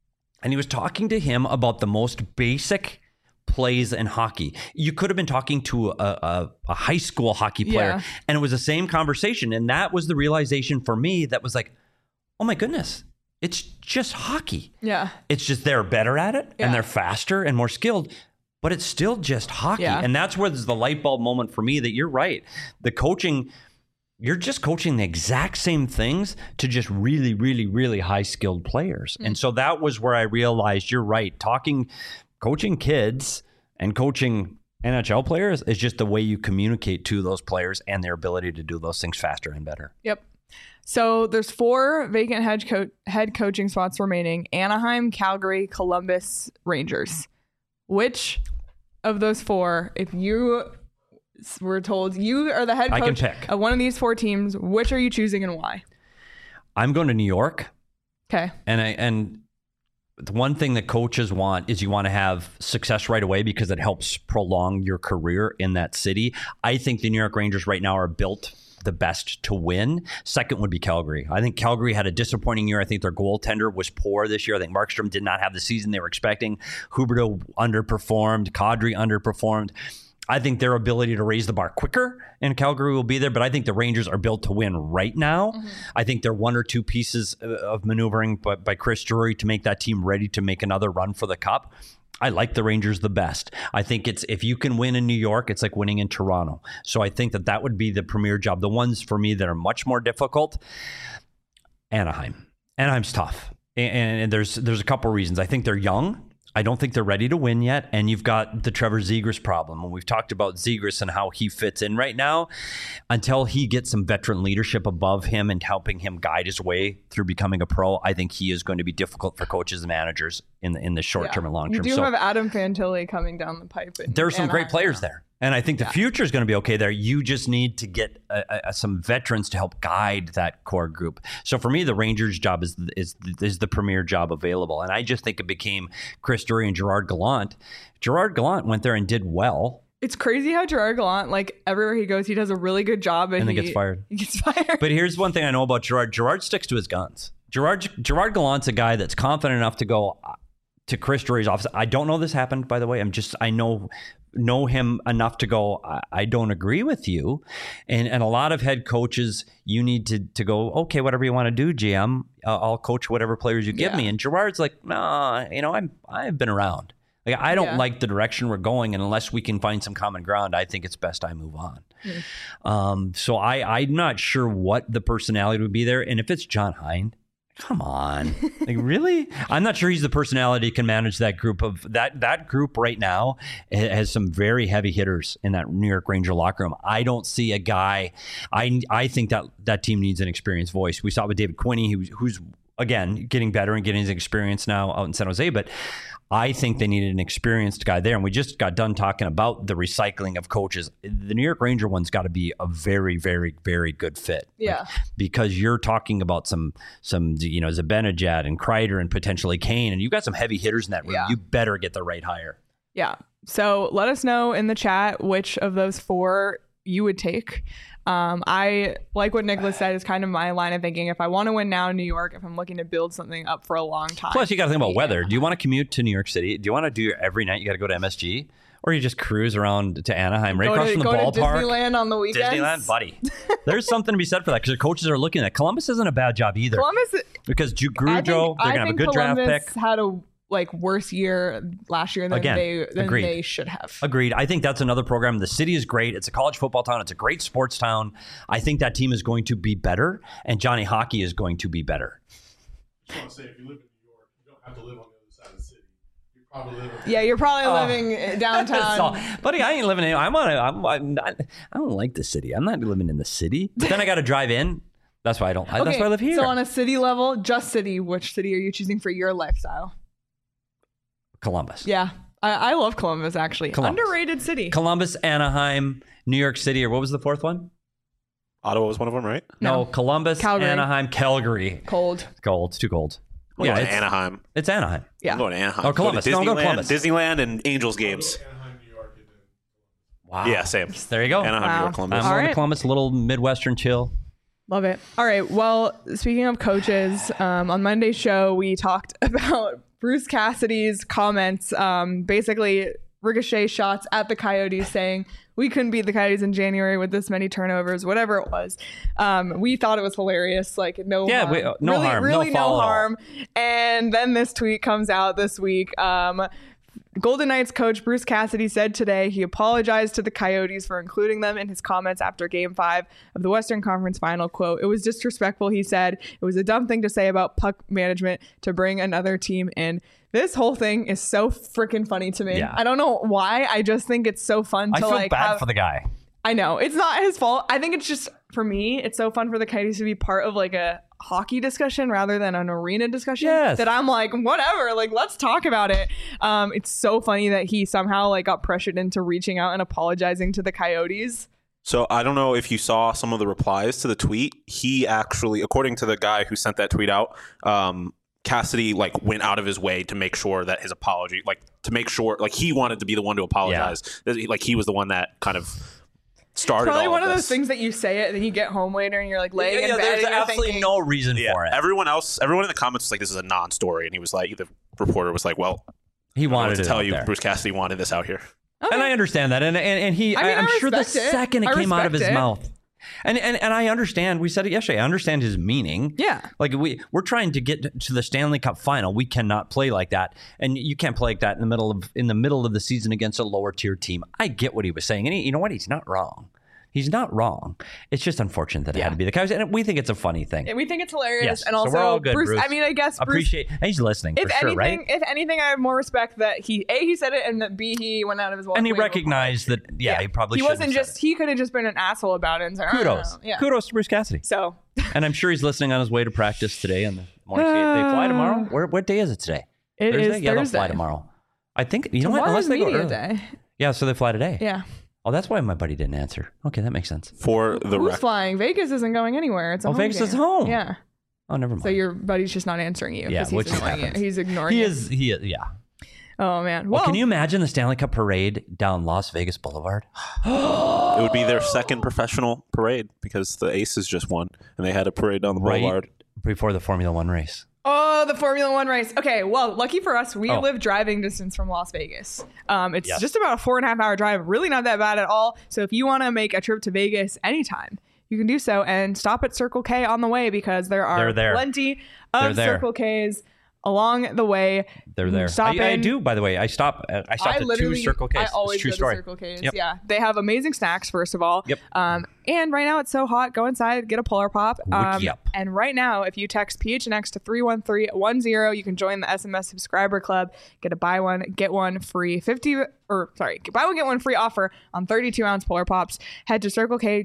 And he was talking to him about the most basic plays in hockey. You could have been talking to a high school hockey player, and it was the same conversation. And that was the realization for me that was like, oh my goodness, it's just hockey. Yeah. It's just they're better at it and they're faster and more skilled, but it's still just hockey. Yeah. And that's where there's the light bulb moment for me that you're right. The coaching, you're just coaching the exact same things to just really, really, really high skilled players. And so that was where I realized you're right. Coaching kids and coaching NHL players is just the way you communicate to those players and their ability to do those things faster and better. Yep. So there's 4 vacant head coaching spots remaining: Anaheim, Calgary, Columbus, Rangers. Which of those 4, if you were told you are the head coach I can pick of one of these 4 teams, which are you choosing and why? I'm going to New York. Okay. And the one thing that coaches want is you want to have success right away because it helps prolong your career in that city. I think the New York Rangers right now are built the best to win. Second would be Calgary. I think Calgary had a disappointing year. I think their goaltender was poor this year. I think Markstrom did not have the season they were expecting. Huberdeau underperformed. Kadri underperformed. I think their ability to raise the bar quicker in Calgary will be there, but I think the Rangers are built to win right now. I think they're 1 or 2 pieces of maneuvering by Chris Drury to make that team ready to make another run for the Cup. I like the Rangers the best. I think if you can win in New York, it's like winning in Toronto. So I think that would be the premier job. The ones for me that are much more difficult, Anaheim. Anaheim's tough. And there's a couple of reasons. I think they're young. I don't think they're ready to win yet. And you've got the Trevor Zegras problem. And we've talked about Zegras and how he fits in right now. Until he gets some veteran leadership above him and helping him guide his way through becoming a pro, I think he is going to be difficult for coaches and managers in the short term and long term. You do have Adam Fantilli coming down the pipe. There's some great players there. And I think the future is going to be okay there. You just need to get some veterans to help guide that core group. So for me, the Rangers' job is the premier job available. And I just think it became Chris Drury and Gerard Gallant. Gerard Gallant went there and did well. It's crazy how Gerard Gallant, like everywhere he goes, he does a really good job. And then gets fired. He gets fired. But here's one thing I know about Gerard. Gerard sticks to his guns. Gerard Gallant's a guy that's confident enough to go to Chris Drury's office. I don't know this happened, by the way. I know him enough to go, I don't agree with you. And a lot of head coaches, you need to go, okay, whatever you want to do, GM, I'll coach whatever players you give me. And Gerard's like, nah, I've been around. Like, I don't like the direction we're going, and unless we can find some common ground, I think it's best I move on. So I'm not sure what the personality would be there. And if it's John Hein, come on. Like, really? I'm not sure he's the personality who can manage that group. That group right now has some very heavy hitters in that New York Ranger locker room. I don't see a guy. I think that team needs an experienced voice. We saw it with David Quinney, who's again getting better and getting his experience now out in San Jose, but I think they needed an experienced guy there. And we just got done talking about the recycling of coaches. The New York Ranger one's got to be a very, very, very good fit. Yeah. Because you're talking about some Zibanejad and Kreider and potentially Kane, and you've got some heavy hitters in that room. Yeah. You better get the right hire. Yeah. So let us know in the chat which of those 4 you would take. I like what Nicholas said is kind of my line of thinking. If I want to win now in New York, if I'm looking to build something up for a long time. Plus, you got to think about weather. Do you want to commute to New York City? Do you want to do every night? You got to go to MSG, or you just cruise around to Anaheim, right across from the ballpark. Go to Disneyland on the weekends. Disneyland, buddy. There's something to be said for that because the coaches are looking at Columbus isn't a bad job either. Columbus, because Grujo, they're gonna have a good draft pick. Had a worse year last year than they should have. Agreed. I think that's another program. The city is great. It's a college football town. It's a great sports town. I think that team is going to be better, and Johnny Hockey is going to be better. I just want to say, if you live in New York, you don't have to live on the other side of the city. You're probably living downtown. So, buddy, I ain't living in. I don't like the city. I'm not living in the city. But then I got to drive in. That's why I don't. That's why I live here. So on a city level, just city, which city are you choosing for your lifestyle? Columbus. Yeah. I love Columbus, actually. Columbus. Underrated city. Columbus, Anaheim, New York City, or what was the 4th one? Ottawa was one of them, right? No, Columbus, Calgary. Anaheim, Calgary. Cold. It's too cold. Yeah, it's Anaheim. It's Anaheim. Yeah. I'm going to Anaheim. Or Columbus. Disneyland, go to Columbus. Disneyland and Angels games. Anaheim, New York, and then Wow. Yeah, same. There you go. Anaheim, New York, Columbus. I'm going to Columbus, a little Midwestern chill. Love it. All right. Well, speaking of coaches, on Monday's show, we talked about Bruce Cassidy's comments, basically ricochet shots at the Coyotes saying, we couldn't beat the Coyotes in January with this many turnovers, whatever it was. We thought it was hilarious. Like, no harm. No harm. Really no no harm. And then this tweet comes out this week. Golden Knights coach Bruce Cassidy said today he apologized to the Coyotes for including them in his comments after Game 5 of the Western Conference Final. Quote, it was disrespectful, he said. It was a dumb thing to say about puck management to bring another team in. This whole thing is so freaking funny to me. Yeah. I don't know why. I just think it's so fun to I feel bad for the guy. I know. It's not his fault. I think it's just, for me, it's so fun for the Coyotes to be part of like a hockey discussion rather than an arena discussion. Yes. That I'm like, whatever, like, let's talk about it. It's so funny that he somehow like got pressured into reaching out and apologizing to the Coyotes. So I don't know if you saw some of the replies to the tweet. He actually, according to the guy who sent that tweet out, Cassidy like went out of his way to make sure that his apology, like to make sure, like he wanted to be the one to apologize. Like he was the one that kind of started. Probably all one of this. those things that you say it and then you get home later and you're like laying in bed. There's and you're absolutely thinking, no reason for it. Everyone in the comments was like, "This is a non-story," and he was like, the reporter was like, "Well, He wanted to it tell out you, there. Bruce Cassidy wanted this out here." Okay. And I understand that. And he, I mean, I'm sure the respect it. second it I came out of his respect it. mouth. And I understand, we said it yesterday, I understand his meaning. Yeah. Like we're trying to get to the Stanley Cup final. We cannot play like that. And you can't play like that in the middle of the season against a lower tier team. I get what he was saying. And you know what? He's not wrong. He's not wrong. It's just unfortunate that it had to be the Coyotes. And we think it's a funny thing. We think it's hilarious. Yes. And So also, we're all good, Bruce. I mean, I guess Bruce, Appreciate. And he's listening for sure, right? If anything, I have more respect that he said it and that B, he went out of his way. And he to recognized that, he probably he shouldn't wasn't have just, said he could have just been an asshole about it and said, it. Kudos. Yeah. Kudos to Bruce Cassidy. So, And I'm sure he's listening on his way to practice today on the morning skate. They fly tomorrow? What day is it today? It Thursday? is Yeah, they'll Thursday. fly tomorrow. I think, you know what? Tomorrow's Unless they go media early. day. Yeah, so they fly today. Yeah. Oh, that's why my buddy didn't answer. Okay, that makes sense. For the Who's record, flying? Vegas isn't going anywhere. It's a home Vegas game. is home. Yeah. Oh, never mind. So your buddy's just not answering you. Yeah, 'cause which he's ignoring happens. you. He's ignoring He you. is, yeah. Oh, man. Well, Well, can you imagine the Stanley Cup parade down Las Vegas Boulevard? it would be their second professional parade because the Aces just won and they had a parade down the boulevard. Before the Formula One race. Oh, the Formula One race. Okay, well, lucky for us, we Oh. live driving distance from Las Vegas. It's Yes. just about a 4.5 hour drive. Really not that bad at all. So if you want to make a trip to Vegas anytime, you can do so and stop at Circle K on the way because there are They're there. plenty They're of there. Circle Ks along the way. They're there. Stop I in. do, by the way. I stopped at two Circle Ks. I always It's a true go story. to Circle K's. Yep. Yeah, they have amazing snacks. First of all, Yep. And right now it's so hot. Go inside, get a Polar Pop. Yep. And right now, if you text PHNX to 31310, you can join the SMS subscriber club. Get a buy one get one free buy one get one free offer on 32-ounce Polar Pops. Head to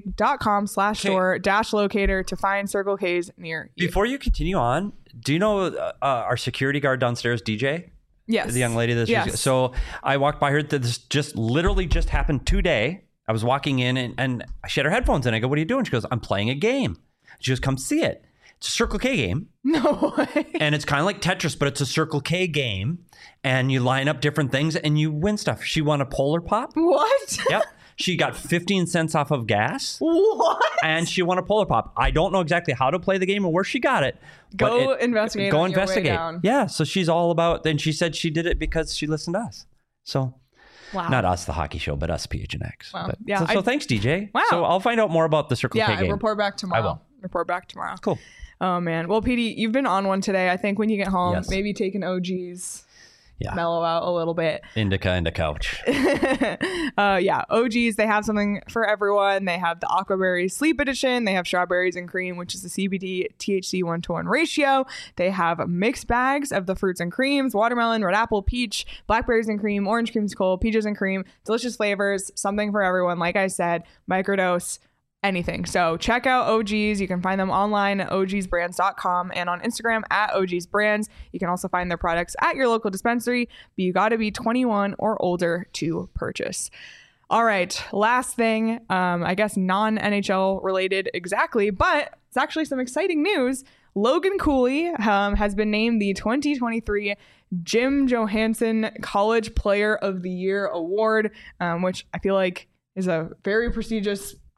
circlek.com/store-locator to find Circle K's near you. Before you continue on, do you know our security guard downstairs, DJ? Yes, The young lady that's Yes. so I walked by her. This literally just happened today. I was walking in and she had her headphones in. I go, "What are you doing?" She goes, "I'm playing a game." She goes, "Come see it." It's a Circle K game. No way. And it's kind of like Tetris, but it's a Circle K game. And you line up different things and you win stuff. She won a Polar Pop. What? Yep. She got 15 cents off of gas. What? And she won a Polar Pop. I don't know exactly how to play the game or where she got it. but Go investigate Go on your way investigate. down. Yeah. So she's all about. Then she said she did it because she listened to us. So Wow. not us, the hockey show, but us, PHNX. Wow. But, Yeah, so thanks, DJ. Wow. So I'll find out more about the Circle K Yeah, game. report back tomorrow. I will. Report back tomorrow. Cool. Oh man. Well, PD, you've been on one today. I think when you get home, Yes. maybe take an OG's, Yeah. mellow out a little bit. Indica and a couch. Yeah, OG's, they have something for everyone. They have the Aquaberry Sleep Edition. They have Strawberries and Cream, which is the CBD THC 1-to-1 ratio. They have mixed bags of the fruits and creams: watermelon, red apple, peach, blackberries and cream, orange creamsicle, peaches and cream. Delicious flavors, something for everyone. Like I said, microdose, anything. So check out OG's. You can find them online at ogsbrands.com and on Instagram at ogsbrands. You can also find their products at your local dispensary, but you got to be 21 or older to purchase. All right, last thing, I guess non-NHL related exactly, but it's actually some exciting news. Logan Cooley has been named the 2023 Jim Johansson College Player of the Year Award, which I feel like is a very prestigious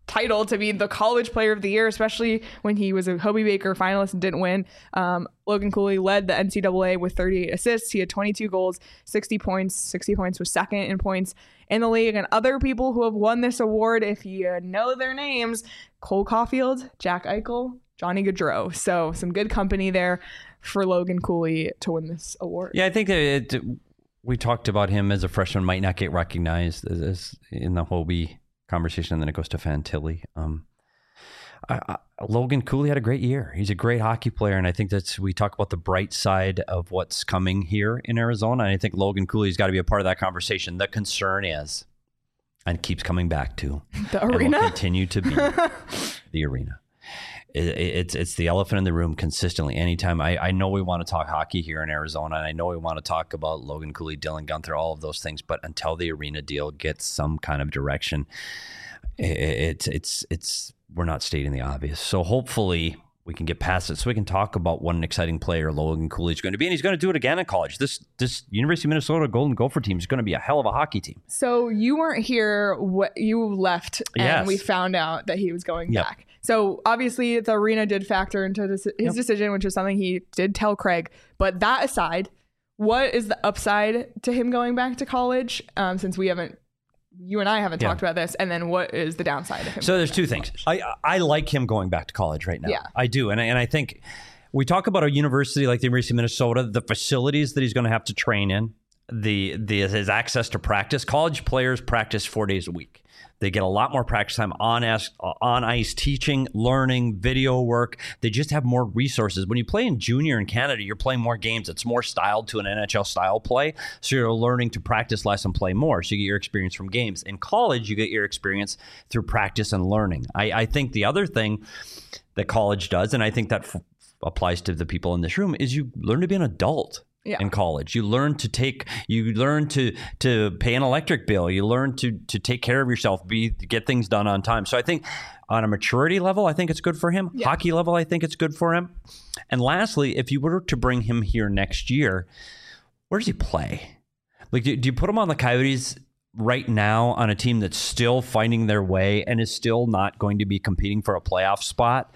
title to be the college player of the year, especially when he was a Hobie Baker finalist and didn't win. Logan Cooley led the NCAA with 38 assists. He had 22 goals, 60 points. 60 points, was second in points in the league. And other people who have won this award, if you know their names, Cole Caulfield, Jack Eichel, Johnny Gaudreau. So some good company there for Logan Cooley to win this award. Yeah, I think we talked about him as a freshman might not get recognized as in the Hobie conversation, and then it goes to Fantilli. Logan Cooley had a great year. He's a great hockey player, and I think we talk about the bright side of what's coming here in Arizona, and I think Logan Cooley's got to be a part of that conversation. The concern is, and keeps coming back to, the and arena will continue to be the arena. It's the elephant in the room consistently. Anytime I know we want to talk hockey here in Arizona, and I know we want to talk about Logan Cooley, Dylan Gunther, all of those things, but until the arena deal gets some kind of direction, we're not stating the obvious. So hopefully we can get past it so we can talk about what an exciting player Logan Cooley is going to be, and he's going to do it again in college. This University of Minnesota Golden Gopher team is going to be a hell of a hockey team. So you weren't here. You left, and Yes. we found out that he was going back. So obviously the arena did factor into his decision, which is something he did tell Craig. But that aside, what is the upside to him going back to college? Since you and I haven't talked about this, and then what is the downside of him? So there's two things. I like him going back to college right now. Yeah. I do, and I think we talk about a university like the University of Minnesota, the facilities that he's going to have to train in, his access to practice. College players practice 4 days a week. They get a lot more practice time on ice, teaching, learning, video work. They just have more resources. When you play in junior in Canada, you're playing more games. It's more styled to an NHL style play. So you're learning to practice less and play more. So you get your experience from games. In college, you get your experience through practice and learning. I think the other thing that college does, and I think that applies to the people in this room, is you learn to be an adult. In college, you learn to pay an electric bill. You learn to take care of yourself, get things done on time. So I think on a maturity level, I think it's good for him. Yeah. Hockey level, I think it's good for him. And lastly, if you were to bring him here next year, where does he play? Like, do you put him on the Coyotes right now on a team that's still finding their way and is still not going to be competing for a playoff spot?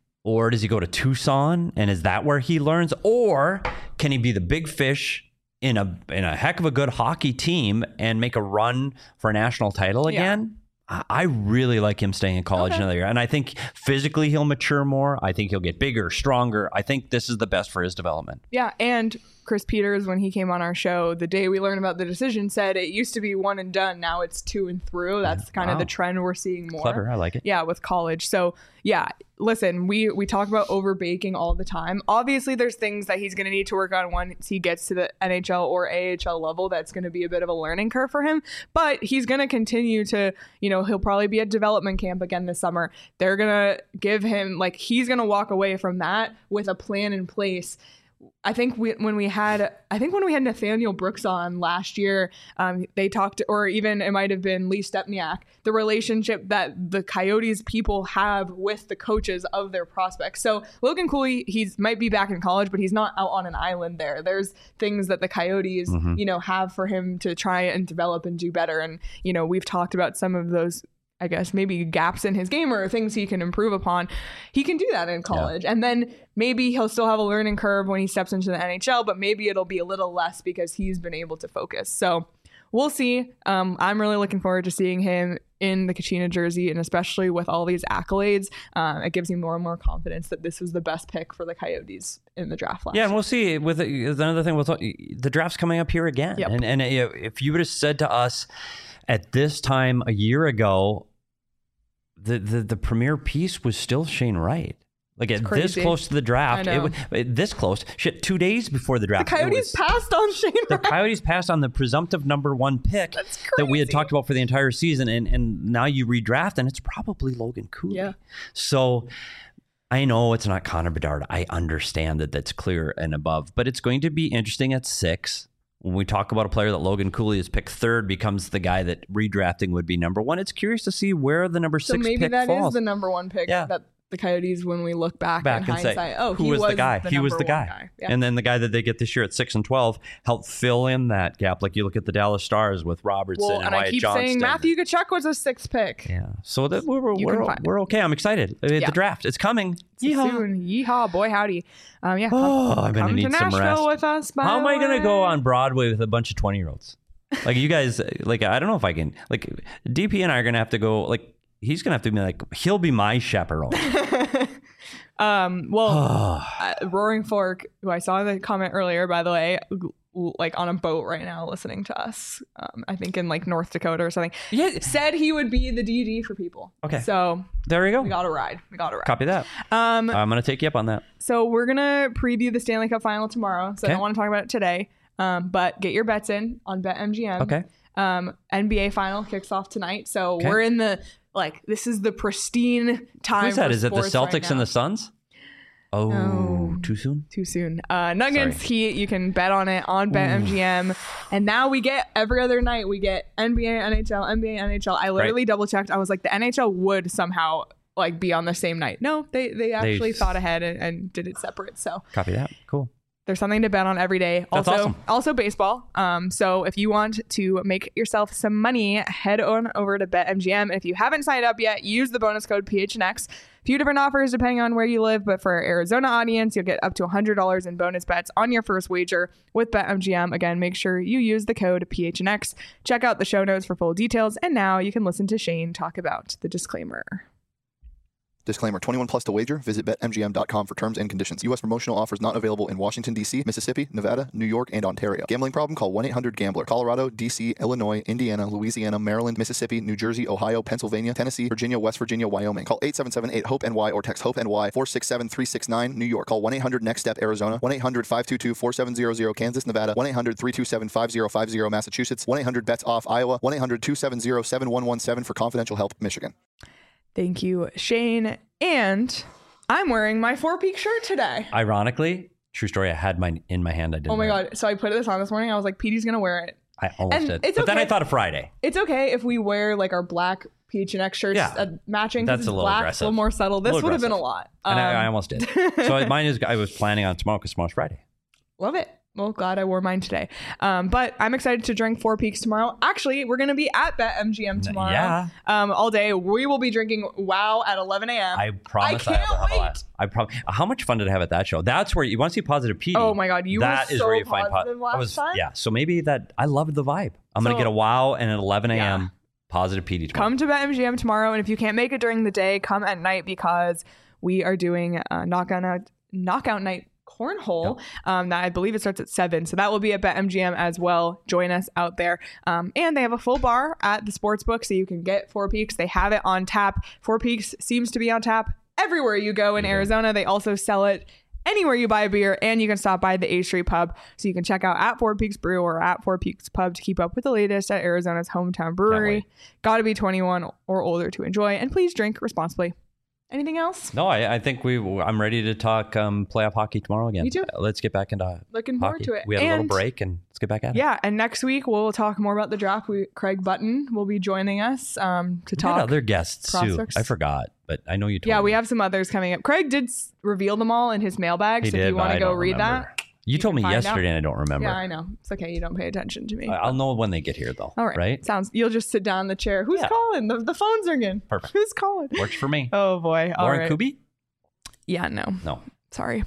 Or does he go to Tucson, and is that where he learns? Or can he be the big fish in a heck of a good hockey team and make a run for a national title again? I really like him staying in college another year. And I think physically he'll mature more. I think he'll get bigger, stronger. I think this is the best for his development. Yeah, and Chris Peters, when he came on our show, the day we learned about the decision, said it used to be one and done. Now it's two and through. That's kind of the trend we're seeing more. Clever. I like it. Yeah, with college. So, yeah, listen, we talk about overbaking all the time. Obviously, there's things that he's going to need to work on once he gets to the NHL or AHL level. That's going to be a bit of a learning curve for him. But he's going to continue to, he'll probably be at development camp again this summer. They're going to give him, he's going to walk away from that with a plan in place. I think when we had Nathaniel Brooks on last year, they talked, or even it might have been Lee Stepniak, the relationship that the Coyotes people have with the coaches of their prospects. So Logan Cooley, might be back in college, but he's not out on an island there. There's things that the Coyotes, have for him to try and develop and do better. And, we've talked about some of those, I guess, maybe gaps in his game or things he can improve upon. He can do that in college. Yeah. And then maybe he'll still have a learning curve when he steps into the NHL, but maybe it'll be a little less because he's been able to focus. So we'll see. I'm really looking forward to seeing him in the Kachina jersey, and especially with all these accolades, it gives me more and more confidence that this was the best pick for the Coyotes in the draft last year. And we'll see. With another thing, we'll talk, the draft's coming up here again. Yep. And if you would have said to us at this time a year ago, the premier piece was still Shane Wright. This close to the draft, this close. 2 days before the draft. The Coyotes passed on Shane Wright. The Coyotes passed on the presumptive number one pick that we had talked about for the entire season, and now you redraft, and it's probably Logan Cooley. Yeah. So I know it's not Connor Bedard. I understand that's clear and above, but it's going to be interesting at 6. When we talk about a player that Logan Cooley has picked 3rd, becomes the guy that redrafting would be number 1. It's curious to see where the number 6 pick falls. So maybe that is the number 1 pick that the Coyotes when we look back in and hindsight. say, Oh, who he was the guy? He was number the one guy. Yeah. And then the guy that they get this year at 6-12 helped fill in that gap. Like you look at the Dallas Stars with Robertson Well, and Wyatt I keep Johnston. saying Matthew Tkachuk was a 6th pick. Yeah. So that You can find we're okay. I'm excited. The draft, it's coming. Yeehaw. Soon. Yeehaw, boy howdy. Yeah. Oh, I'm going to come need to some Nashville rest. with us. How am I going to go on Broadway with a bunch of 20-year-olds? Like you guys, like I don't know if I can. Like DP and I are going to have to go. Like he's going to have to be like he'll be my chaperone. Roaring Fork, who I saw in the comment earlier, by the way, like on a boat right now listening to us, I think in like North Dakota or something, said he would be the DD for people. Okay. So there we go. we got to ride. Copy that. I'm going to take you up on that. So we're going to preview the Stanley Cup final tomorrow. So I Okay. don't want to talk about it today, but get your bets in on BetMGM. Okay. NBA final kicks off tonight. So Okay. we're in the, like, this is the pristine time. Who's that? for Is it the sports right Celtics now. and the Suns? Oh, No. too soon? Too soon. Nuggets, Sorry. Heat, you can bet on it on BetMGM. And now we get every other night, we get NBA, NHL, NBA, NHL. I literally double checked. I was like, the NHL would somehow like be on the same night. No, they actually thought ahead and did it separate. So Copy that. Cool. there's something to bet on every day. That's Also, awesome. also baseball. So if you want to make yourself some money, head on over to BetMGM. And if you haven't signed up yet, use the bonus code PHNX. A few different offers depending on where you live, but for our Arizona audience, you'll get up to $100 in bonus bets on your first wager with BetMGM. Again, make sure you use the code PHNX. Check out the show notes for full details. And now you can listen to Shane talk about the disclaimer. Disclaimer, 21 plus to wager. Visit BetMGM.com for terms and conditions. U.S. promotional offers not available in Washington, D.C., Mississippi, Nevada, New York, and Ontario. Gambling problem? Call 1-800-GAMBLER. Colorado, D.C., Illinois, Indiana, Louisiana, Maryland, Mississippi, New Jersey, Ohio, Pennsylvania, Tennessee, Virginia, West Virginia, Wyoming. Call 877-8-HOPE-NY or text HOPE-NY 467-369, New York. Call 1-800-NEXT-STEP, Arizona. 1-800-522-4700, Kansas, Nevada. 1-800-327-5050, Massachusetts. 1-800-BETS-OFF, Iowa. 1-800-270-7117 for confidential help, Michigan. Thank you, Shane. And I'm wearing my Four Peak shirt today. Ironically, true story, I had mine in my hand. I didn't. Oh my wear it. God. So I put this on this morning. I was like, Petey's going to wear it. I almost And did. it's But then I okay. thought of Friday. It's okay if we wear like our black PHNX shirts matching. 'Cause That's it's a little black, aggressive. a little more subtle. This Little would have been a aggressive. lot. And I almost did. So mine is, I was planning on tomorrow because tomorrow's Friday. Love it. Well, glad I wore mine today. But I'm excited to drink Four Peaks tomorrow. Actually, we're going to be at BetMGM tomorrow. Yeah. All day. We will be drinking WOW at 11 a.m. I promise I I can't will have a wait. lot. I promise. How much fun did I have at that show? That's where you want to see positive PD. Oh my God, you were That is so where you find positive last time. Yeah. So maybe that I loved the vibe. I'm gonna So- get a wow and at 11 a.m. Yeah. positive PD tomorrow. Come to BetMGM tomorrow. And if you can't make it during the day, come at night because we are doing knockout night cornhole that I believe it starts at 7. So that will be at BetMGM as well. Join us out there. And they have a full bar at the sportsbook so you can get Four Peaks. They have it on tap. Four Peaks seems to be on tap everywhere you go in Arizona. They also sell it anywhere you buy a beer, and you can stop by the A Street Pub. So you can check out at Four Peaks Brew or at Four Peaks Pub to keep up with the latest at Arizona's hometown brewery. Got to be 21 or older to enjoy, and please drink responsibly. Anything else? No, I think I'm ready to talk playoff hockey tomorrow again. Me too. Let's get back into Looking forward hockey. to it. We had a little And- break and let's get back at it. Yeah, and next week we'll talk more about the draft. Craig Button will be joining us to We had talk. other guests prospects. too. I forgot, but I know you told Yeah, me. we have some others coming up. Craig did reveal them all in his mailbag, He so if did, you but want I to go don't read remember. that. You told me can find yesterday out. and I don't remember. Yeah, I know. It's okay. You don't pay attention to me. I'll know when they get here though. All right. Right? You'll just sit down in the chair. Who's Yeah. calling? The phone's ringing. Perfect. Who's calling? Works for me. Oh boy. All Lauren right. Kuby? Yeah, no. No. Sorry.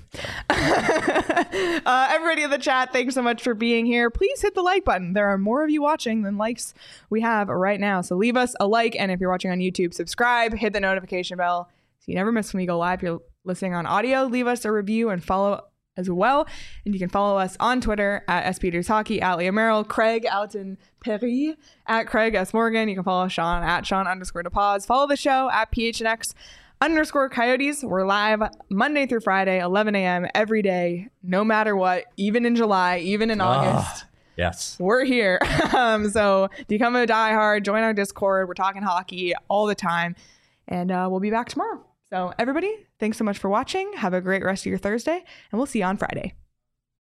Everybody in the chat, thanks so much for being here. Please hit the like button. There are more of you watching than likes we have right now. So leave us a like. And if you're watching on YouTube, subscribe, hit the notification bell so you never miss when we go live. If you're listening on audio, leave us a review and follow as well. And you can follow us on Twitter at SPetersHockey, at Leah Merrill, Craig Alton Perry, at Craig S. Morgan. You can follow Sean at Sean_DePause. Follow the show at PHNX_Coyotes. We're live Monday through Friday, 11 a.m. every day, no matter what, even in July, even in August. Yes. We're here. So become a diehard, join our Discord. We're talking hockey all the time. And we'll be back tomorrow. So everybody, thanks so much for watching. Have a great rest of your Thursday, and we'll see you on Friday.